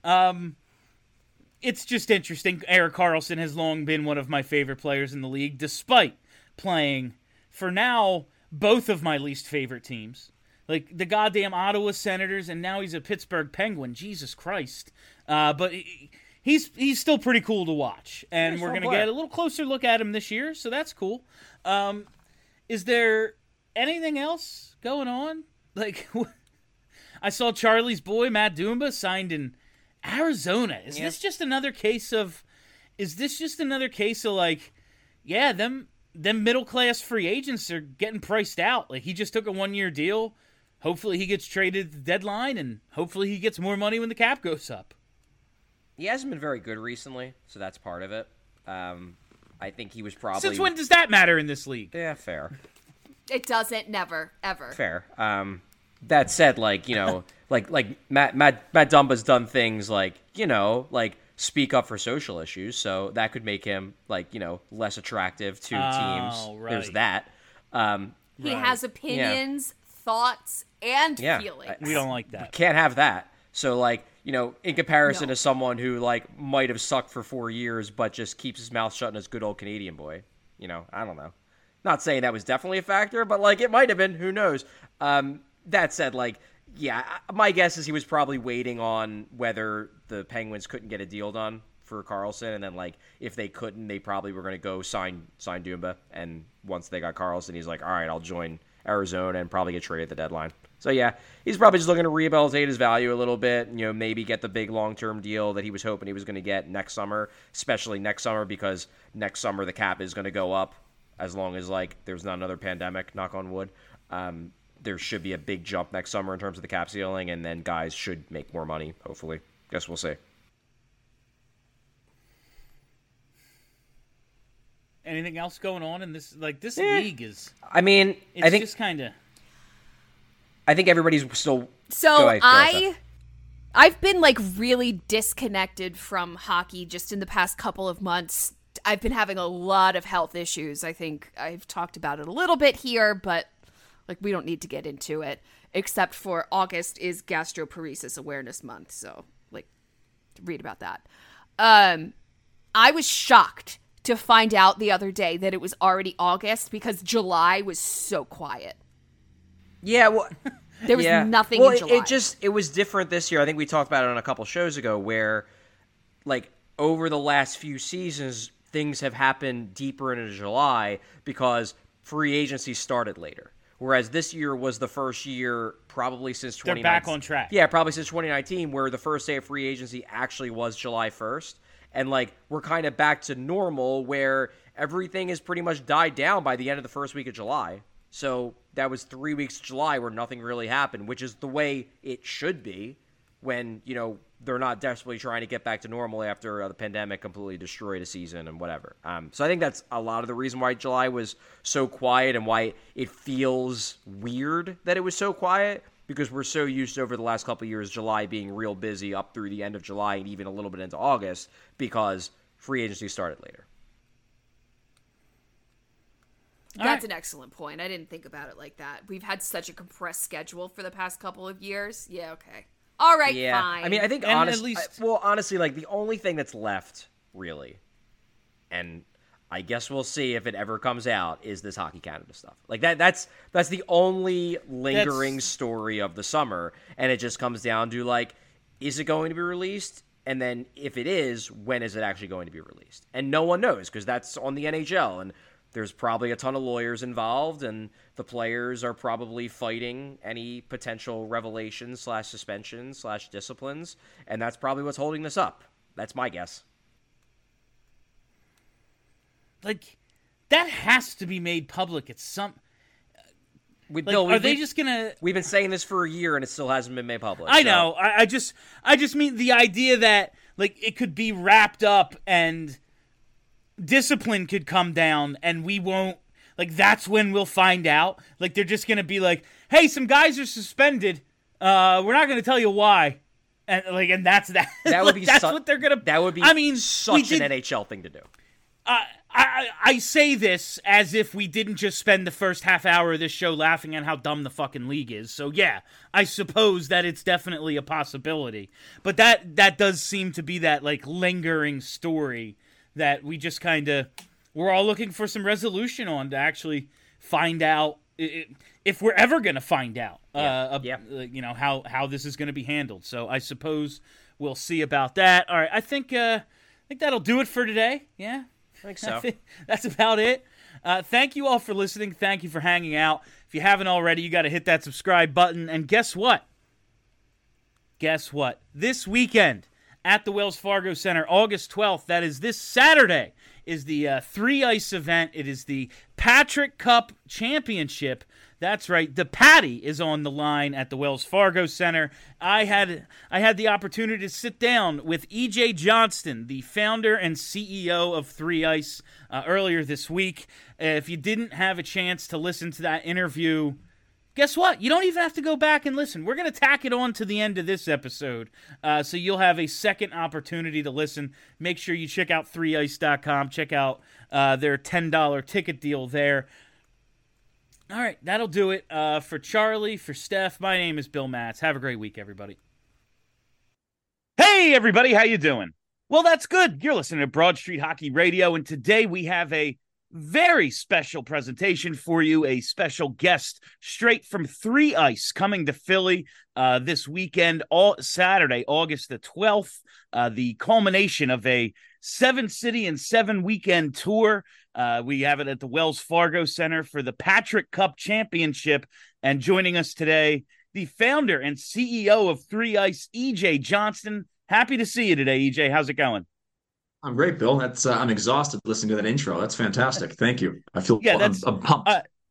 It's just interesting. Erik Karlsson has long been one of my favorite players in the league, despite playing, for now, both of my least favorite teams. Like, the goddamn Ottawa Senators, and now he's a Pittsburgh Penguin. Jesus Christ. But he's still pretty cool to watch. And we're going to get a little closer look at him this year, so that's cool. Is there anything else going on? Like, I saw Charlie's boy, Matt Dumba, signed in Arizona. Is this just another case of, like, yeah, them middle-class free agents are getting priced out. Like, he just took a 1-year deal. Hopefully he gets traded at the deadline, and hopefully he gets more money when the cap goes up. He hasn't been very good recently, so that's part of it. I think he was probably... Since when does that matter in this league? Yeah, fair. It doesn't, never, ever. Fair. That said, like, you know, like Matt Dumba's done things like, you know, like speak up for social issues, so that could make him, like, you know, less attractive to teams. Right. There's that. He has opinions, thoughts, and feelings. We don't like that. Can't have that. So, like, you know, in comparison to someone who, like, might have sucked for 4 years but just keeps his mouth shut and is good old Canadian boy. You know, I don't know. Not saying that was definitely a factor, but, like, it might have been. Who knows? That said, like, yeah, my guess is he was probably waiting on whether the Penguins couldn't get a deal done for Karlsson, and then, like, if they couldn't, they probably were going to go sign Dumba, and once they got Karlsson, he's like, all right, I'll join Arizona and probably get traded at the deadline. So, yeah, he's probably just looking to rehabilitate his value a little bit, you know, maybe get the big long-term deal that he was hoping he was going to get next summer, especially next summer, because next summer the cap is going to go up as long as, like, there's not another pandemic, knock on wood. There should be a big jump next summer in terms of the cap ceiling, and then guys should make more money, hopefully. Guess we'll see. Anything else going on in this? Like, this league is... I mean, I think just kind of... I think everybody's still... So I've been, like, really disconnected from hockey just in the past couple of months. I've been having a lot of health issues. I think I've talked about it a little bit here, but... like, we don't need to get into it, except for August is Gastroparesis Awareness Month, so, like, read about that. I was shocked to find out the other day that it was already August because July was so quiet. Yeah, well... there was nothing in July. It was different this year. I think we talked about it on a couple shows ago where, like, over the last few seasons, things have happened deeper into July because free agency started later. Whereas this year was the first year probably since 2019. They're back on track. Yeah, probably since 2019 where the first day of free agency actually was July 1st. And, like, we're kind of back to normal where everything has pretty much died down by the end of the first week of July. So that was 3 weeks of July where nothing really happened, which is the way it should be when, you know, they're not desperately trying to get back to normal after the pandemic completely destroyed a season and whatever. So I think that's a lot of the reason why July was so quiet and why it feels weird that it was so quiet, because we're so used to over the last couple of years July being real busy up through the end of July and even a little bit into August because free agency started later. That's an excellent point. I didn't think about it like that. We've had such a compressed schedule for the past couple of years. Yeah, okay. All right, Yeah, fine. I mean, I think And honestly, at least- honestly, like the only thing that's left, really, and I guess we'll see if it ever comes out, is this Hockey Canada stuff. Like that's the only lingering story of the summer, and it just comes down to like, is it going to be released? And then if it is, when is it actually going to be released? And no one knows because that's on the NHL, and there's probably a ton of lawyers involved, and the players are probably fighting any potential revelations / suspensions / disciplines, and that's probably what's holding this up. That's my guess. Like, that has to be made public at some... Like, Bill, are they just gonna... We've been saying this for a year, and it still hasn't been made public. I know. I just mean the idea that, like, it could be wrapped up and discipline could come down and we won't... Like, that's when we'll find out. Like, they're just gonna be like, hey, some guys are suspended. We're not gonna tell you why. And that's that. That would be that's what they're gonna... That would be I mean, such an NHL thing to do. I say this as if we didn't just spend the first half hour of this show laughing at how dumb the fucking league is. So yeah, I suppose that it's definitely a possibility. But that does seem to be that like lingering story that we just kind of we're all looking for some resolution on to actually find out if we're ever going to find out you know how this is going to be handled. So I suppose we'll see about that. All right, I think that'll do it for today. Yeah. I think so. That's about it. Thank you all for listening. Thank you for hanging out. If you haven't already, you got to hit that subscribe button. And guess what? This weekend at the Wells Fargo Center, August 12th, that is this Saturday, is the 3 Ice event. It is the Patrick Cup Championship. That's right. The Patty is on the line at the Wells Fargo Center. I had the opportunity to sit down with E.J. Johnston, the founder and CEO of 3 Ice, earlier this week. If you didn't have a chance to listen to that interview, guess what? You don't even have to go back and listen. We're going to tack it on to the end of this episode, so you'll have a second opportunity to listen. Make sure you check out 3ice.com. Check out their $10 ticket deal there. All right, that'll do it. For Charlie, for Steph, my name is Bill Matz. Have a great week, everybody. Hey, everybody, how you doing? Well, that's good. You're listening to Broad Street Hockey Radio, and today we have a very special presentation for you, a special guest straight from 3 Ice coming to Philly this weekend, Saturday, August the 12th, the culmination of a 7-city and 7-weekend tour. We have it at the Wells Fargo Center for the Patrick Cup Championship. And joining us today, the founder and CEO of 3 Ice, E.J. Johnston. Happy to see you today, E.J. How's it going? I'm great, Bill. That's I'm exhausted listening to that intro. That's fantastic. Thank you. I feel I'm pumped.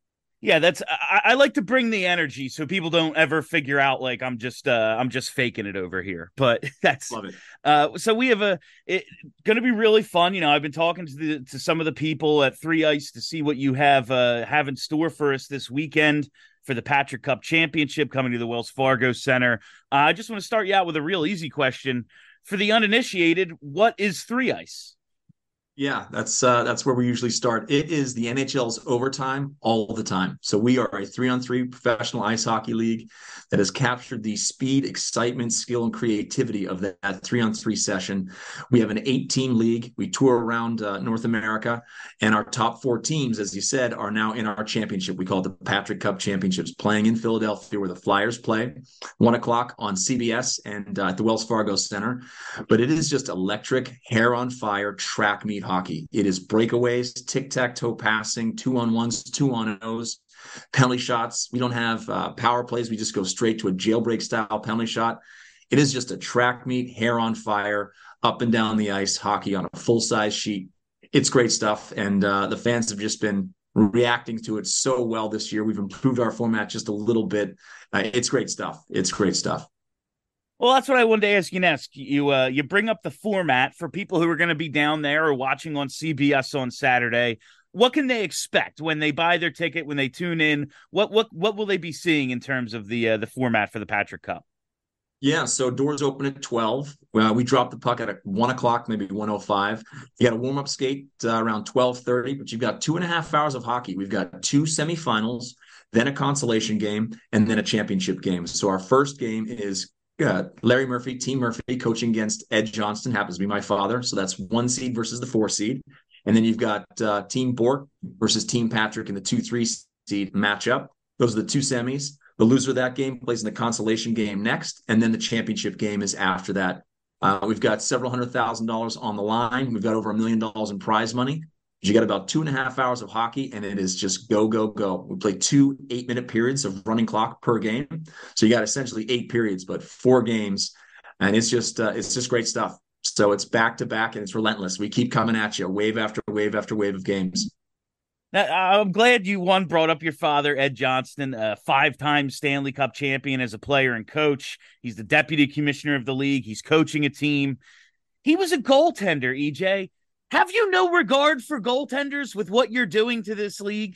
I like to bring the energy so people don't ever figure out like I'm just faking it over here. But that's Love it. So we have going to be really fun. You know, I've been talking to some of the people at 3 Ice to see what you have in store for us this weekend for the Patrick Cup Championship coming to the Wells Fargo Center. I just want to start you out with a real easy question. For the uninitiated, what is 3 Ice? Yeah, that's where we usually start. It is the NHL's overtime all the time. So we are a 3-on-3 professional ice hockey league that has captured the speed, excitement, skill, and creativity of that 3-on-3 session. We have an 8-team league. We tour around North America, and our top 4 teams, as you said, are now in our championship. We call it the Patrick Cup Championships, playing in Philadelphia where the Flyers play, 1 o'clock on CBS and at the Wells Fargo Center. But it is just electric, hair-on-fire track meet hockey. It is breakaways, tic-tac-toe passing, 2-on-1s, 2-on-0s, penalty shots. We don't have power plays. We just go straight to a jailbreak style penalty shot. It is just a track meet, hair on fire, up and down the ice hockey on a full-size sheet. It's great stuff, and the fans have just been reacting to it so well this year. We've improved our format just a little bit. It's great stuff. It's great stuff. Well, that's what I wanted to ask you next. You bring up the format for people who are going to be down there or watching on CBS on Saturday. What can they expect when they buy their ticket, when they tune in? What will they be seeing in terms of the format for the Patrick Cup? Yeah, so doors open at 12. We drop the puck at 1 o'clock, maybe 1:05. You got a warm-up skate around 12:30, but you've got 2.5 hours of hockey. We've got two semifinals, then a consolation game, and then a championship game. So our first game is Larry Murphy, Team Murphy, coaching against Ed Johnston, happens to be my father. So that's 1 seed versus the 4 seed. And then you've got Team Bork versus Team Patrick in the 2-3 seed matchup. Those are the two semis. The loser of that game plays in the consolation game next, and then the championship game is after that. We've got several $100,000 on the line. We've got over $1 million in prize money. You got about 2.5 hours of hockey, and it is just go, go, go. We play 2 8-minute periods of running clock per game. So you got essentially 8 periods, but 4 games, and it's just great stuff. So it's back to back, and it's relentless. We keep coming at you, wave after wave after wave of games. Now, I'm glad you brought up your father, Ed Johnston, a 5-time Stanley Cup champion as a player and coach. He's the deputy commissioner of the league. He's coaching a team. He was a goaltender, EJ. Have you no regard for goaltenders with what you're doing to this league?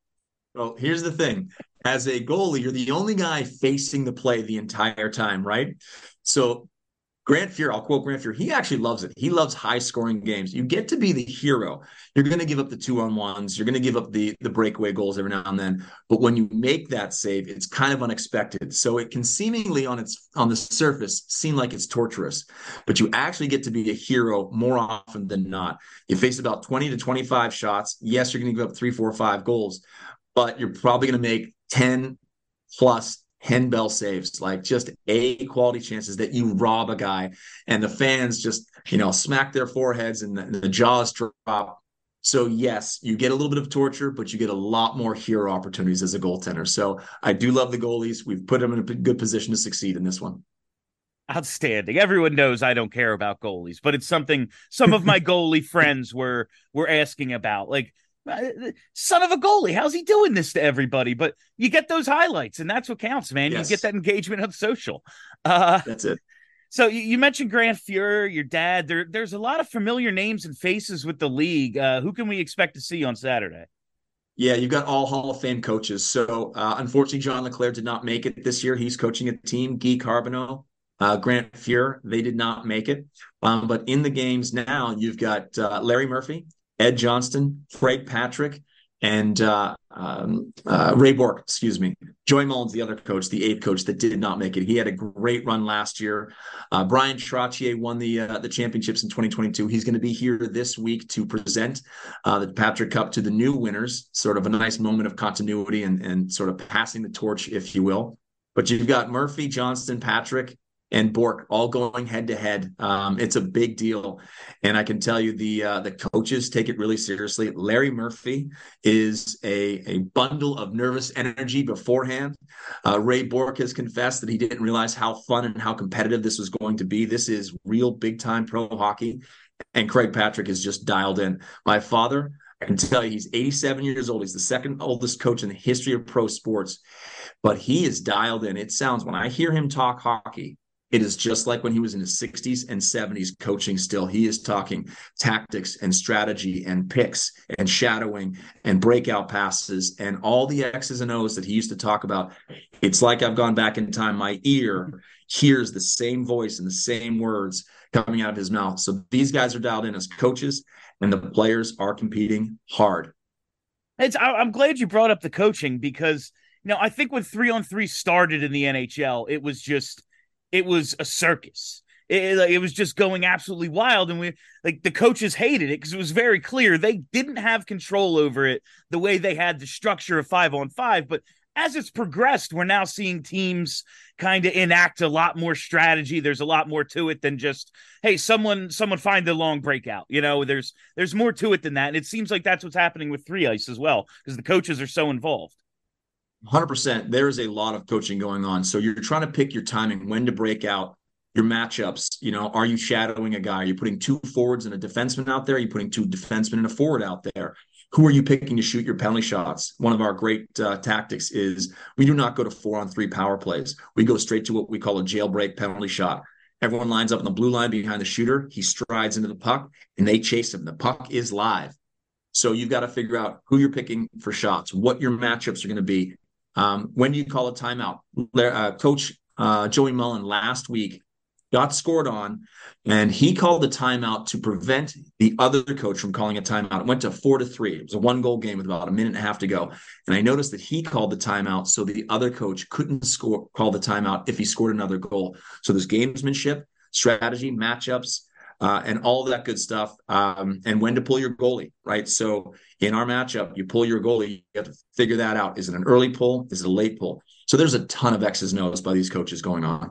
Well, here's the thing. As a goalie, you're the only guy facing the play the entire time, right? So Grant Fuhr, I'll quote Grant Fuhr, he actually loves it. He loves high-scoring games. You get to be the hero. You're going to give up the 2-on-1s. You're going to give up the breakaway goals every now and then. But when you make that save, it's kind of unexpected. So it can seemingly on the surface seem like it's torturous. But you actually get to be a hero more often than not. You face about 20 to 25 shots. Yes, you're going to give up 3, 4, 5 goals. But you're probably going to make 10 plus handbell saves, like just A quality chances that you rob a guy, and the fans just, smack their foreheads and the jaws drop. So yes, you get a little bit of torture, but you get a lot more hero opportunities as a goaltender. So I do love the goalies. We've put them in a good position to succeed in this one. Outstanding. Everyone knows I don't care about goalies, but it's something some of my goalie friends were asking about. Like, son of a goalie, how's he doing this to everybody? But you get those highlights, and that's what counts, man. Yes. You get that engagement on social. That's it. So you mentioned Grant Fuhr, your dad. There's a lot of familiar names and faces with the league. Who can we expect to see on Saturday? Yeah, you've got all Hall of Fame coaches. So unfortunately, John LeClair did not make it this year. He's coaching a team. Guy Carbonneau, Grant Fuhr, they did not make it. But in the games now, you've got Larry Murphy, Ed Johnston, Craig Patrick, and Ray Bork, Joey Mullins, the other coach, the 8th coach that did not make it. He had a great run last year. Brian Trottier won the championships in 2022. He's going to be here this week to present the Patrick Cup to the new winners, sort of a nice moment of continuity and sort of passing the torch, if you will. But you've got Murphy, Johnston, Patrick, and Bork all going head to head. It's a big deal. And I can tell you the coaches take it really seriously. Larry Murphy is a bundle of nervous energy beforehand. Ray Bork has confessed that he didn't realize how fun and how competitive this was going to be. This is real big time pro hockey. And Craig Patrick is just dialed in. My father, I can tell you, he's 87 years old. He's the second oldest coach in the history of pro sports, but he is dialed in. It sounds, when I hear him talk hockey, it is just like when he was in his 60s and 70s coaching still. He is talking tactics and strategy and picks and shadowing and breakout passes and all the X's and O's that he used to talk about. It's like I've gone back in time. My ear hears the same voice and the same words coming out of his mouth. So these guys are dialed in as coaches, and the players are competing hard. I'm glad you brought up the coaching because, I think when 3-on-3 started in the NHL, it was a circus. It was just going absolutely wild. And the coaches hated it because it was very clear they didn't have control over it the way they had the structure of 5-on-5. But as it's progressed, we're now seeing teams kind of enact a lot more strategy. There's a lot more to it than just, hey, someone find the long breakout. There's more to it than that. And it seems like that's what's happening with 3-ice as well because the coaches are so involved. 100%. There is a lot of coaching going on. So you're trying to pick your timing, when to break out, your matchups. Are you shadowing a guy? Are you putting 2 forwards and a defenseman out there? Are you putting 2 defensemen and a forward out there? Who are you picking to shoot your penalty shots? One of our great tactics is we do not go to 4-on-3 power plays. We go straight to what we call a jailbreak penalty shot. Everyone lines up on the blue line behind the shooter. He strides into the puck, and they chase him. The puck is live. So you've got to figure out who you're picking for shots, what your matchups are going to be. When do you call a timeout? Coach Joey Mullen last week, got scored on, and he called the timeout to prevent the other coach from calling a timeout. It went to 4-3. It was a 1-goal game with about a minute and a half to go. And I noticed that he called the timeout so the other coach couldn't call the timeout if he scored another goal. So there's gamesmanship, strategy, matchups, and all that good stuff, and when to pull your goalie, right? So in our matchup, you pull your goalie, you have to figure that out. Is it an early pull? Is it a late pull? So there's a ton of X's and O's by these coaches going on.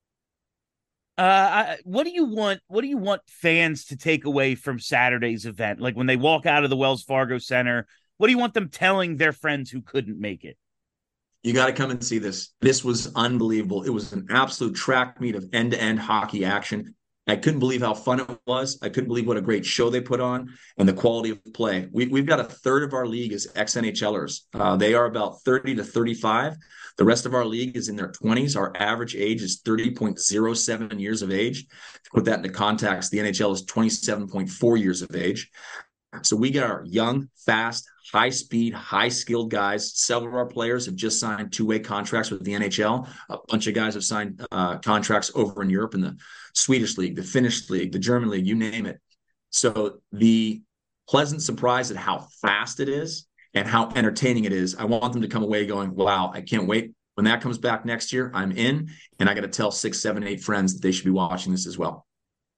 What do you want? What do you want fans to take away from Saturday's event? Like when they walk out of the Wells Fargo Center, what do you want them telling their friends who couldn't make it? You got to come and see this. This was unbelievable. It was an absolute track meet of end-to-end hockey action. I couldn't believe how fun it was. I couldn't believe what a great show they put on and the quality of play. We've got a third of our league is ex-NHLers. They are about 30 to 35. The rest of our league is in their 20s. Our average age is 30.07 years of age. To put that into context, the NHL is 27.4 years of age. So we get our young, fast, high-speed, high-skilled guys. Several of our players have just signed two-way contracts with the NHL. A bunch of guys have signed contracts over in Europe in the Swedish league, the Finnish league, the German league, you name it. So the pleasant surprise at how fast it is and how entertaining it is, I want them to come away going, wow, I can't wait. When that comes back next year, I'm in, and I got to tell 6, 7, 8 friends that they should be watching this as well.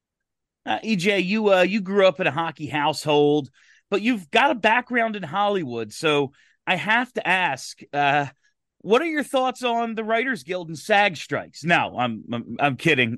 EJ, you grew up in a hockey household, but you've got a background in Hollywood. So I have to ask, what are your thoughts on the Writers Guild and SAG strikes? No, I'm kidding.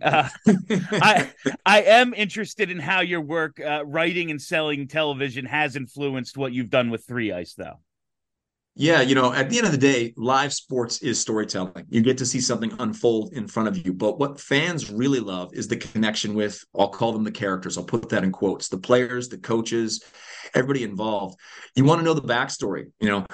I am interested in how your work writing and selling television has influenced what you've done with 3 Ice, though. Yeah, at the end of the day, live sports is storytelling. You get to see something unfold in front of you. But what fans really love is the connection with, I'll call them the characters. I'll put that in quotes, the players, the coaches, everybody involved. You want to know the backstory.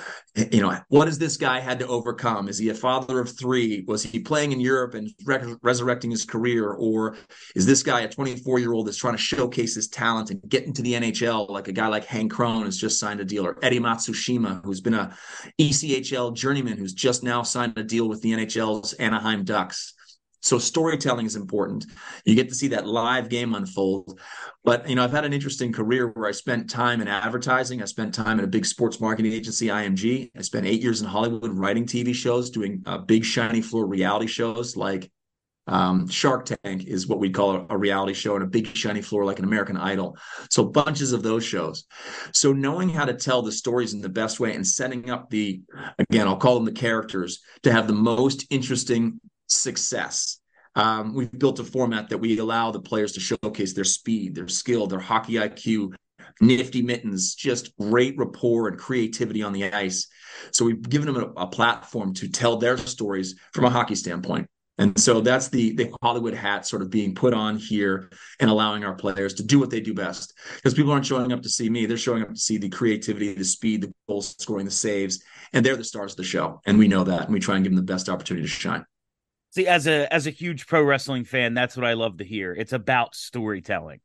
What has this guy had to overcome? Is he a father of 3? Was he playing in Europe and resurrecting his career? Or is this guy a 24-year-old that's trying to showcase his talent and get into the NHL, like a guy like Hank Crone has just signed a deal, or Eddie Matsushima, who's been a ECHL journeyman who's just now signed a deal with the NHL's Anaheim Ducks. So storytelling is important. You get to see that live game unfold. But, I've had an interesting career where I spent time in advertising. I spent time in a big sports marketing agency, IMG. I spent 8 years in Hollywood writing TV shows, doing big shiny floor reality shows like Shark Tank is what we call a reality show, and a big shiny floor like an American Idol. So bunches of those shows. So knowing how to tell the stories in the best way and setting up again, I'll call them the characters, to have the most interesting success. We've built a format that we allow the players to showcase their speed, their skill, their hockey IQ, nifty mittens, just great rapport and creativity on the ice. So we've given them a platform to tell their stories from a hockey standpoint. And so that's the Hollywood hat sort of being put on here and allowing our players to do what they do best. Because people aren't showing up to see me. They're showing up to see the creativity, the speed, the goal scoring, the saves, and they're the stars of the show. And we know that, and we try and give them the best opportunity to shine. See, as a huge pro wrestling fan, that's what I love to hear. It's about storytelling.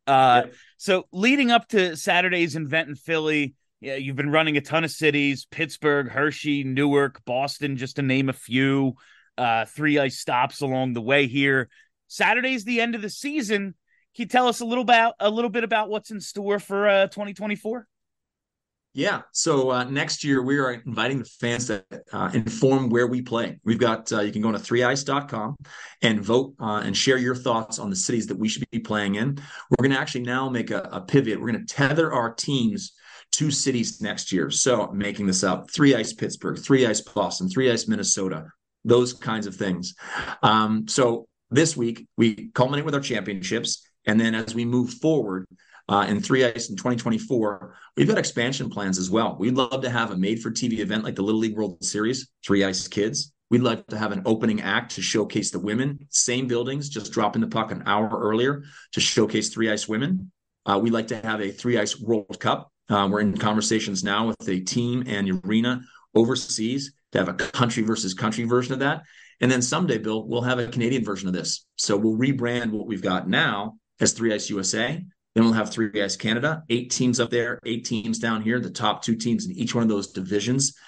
So leading up to Saturday's event in Philly, you've been running a ton of cities: Pittsburgh, Hershey, Newark, Boston, just to name a few. 3 Ice stops along the way here. Saturday's the end of the season. Can you tell us a little bit about what's in store for 2024? Yeah. So next year, we are inviting the fans to inform where we play. We've got, you can go to 3ice.com and vote and share your thoughts on the cities that we should be playing in. We're going to actually now make a pivot. We're going to tether our teams to cities next year. So making this up: 3 Ice Pittsburgh, 3 Ice Boston, 3 Ice Minnesota, those kinds of things. So this week, we culminate with our championships. And then as we move forward, in 3 Ice in 2024, we've got expansion plans as well. We'd love to have a made-for-TV event like the Little League World Series, 3 Ice Kids. We'd like to have an opening act to showcase the women, same buildings, just dropping the puck an hour earlier to showcase 3 Ice women. We'd like to have a 3 Ice World Cup. We're in conversations now with a team and arena overseas to have a country versus country version of that. And then someday, Bill, we'll have a Canadian version of this. So we'll rebrand what we've got now as 3 Ice USA. Then we'll have 3 Ice Canada, 8 teams up there, 8 teams down here, the top 2 teams in each one of those divisions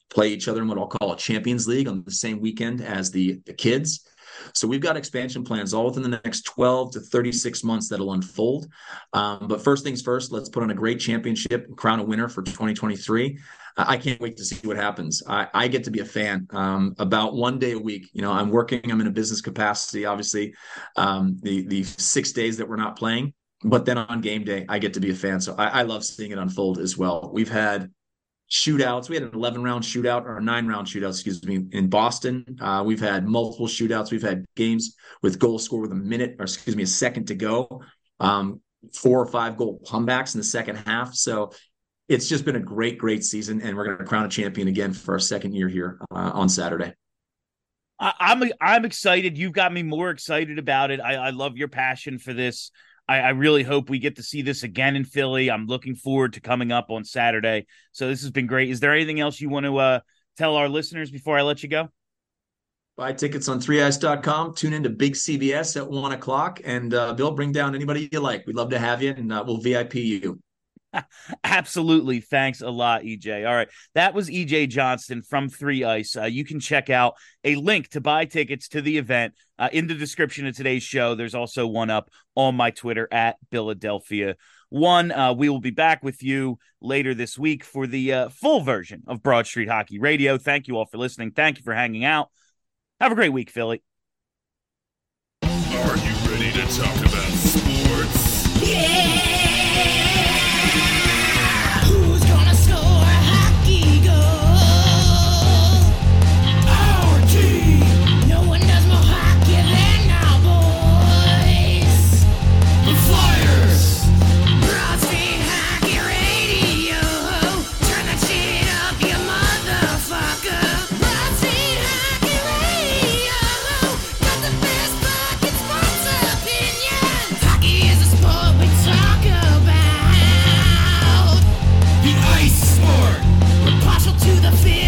play each other in what I'll call a Champions League on the same weekend as the kids. So we've got expansion plans all within the next 12 to 36 months that'll unfold. But first things first, let's put on a great championship and crown a winner for 2023. I can't wait to see what happens. I get to be a fan about one day a week. You know, I'm in a business capacity, obviously, the 6 days that we're not playing. But then on game day, I get to be a fan. So I love seeing it unfold as well. We've had shootouts. We had an 11-round shootout or a 9-round shootout, excuse me, in Boston. We've had multiple shootouts. We've had games with goal score with a second to go. 4 or 5 goal comebacks in the second half. So it's just been a great season, and we're going to crown a champion again for our second year here on Saturday. I'm excited. You've got me more excited about it. I love your passion for this. I really hope we get to see this again in Philly. I'm looking forward to coming up on Saturday. So this has been great. Is there anything else you want to tell our listeners before I let you go? Buy tickets on 3ice.com. Tune into Big CBS at 1 o'clock. And Bill, bring down anybody you like. We'd love to have you, and we'll VIP you. Absolutely. Thanks a lot, EJ. All right. That was EJ Johnston from 3 Ice. You can check out a link to buy tickets to the event in the description of today's show. There's also one up on my Twitter at Philadelphia1. We will be back with you later this week for the full version of Broad Street Hockey Radio. Thank you all for listening. Thank you for hanging out. Have a great week, Philly. Are you ready to talk about sports? Yeah! Who's gonna score a hockey goal? Our team! No one does more hockey than our boys! The Flyers! Broad Street Hockey Radio! Turn that shit up, you motherfucker! Broad Street Hockey Radio! Got the best fucking sports opinions! Hockey is a sport we talk about! The Ice Sport! We're partial to the field.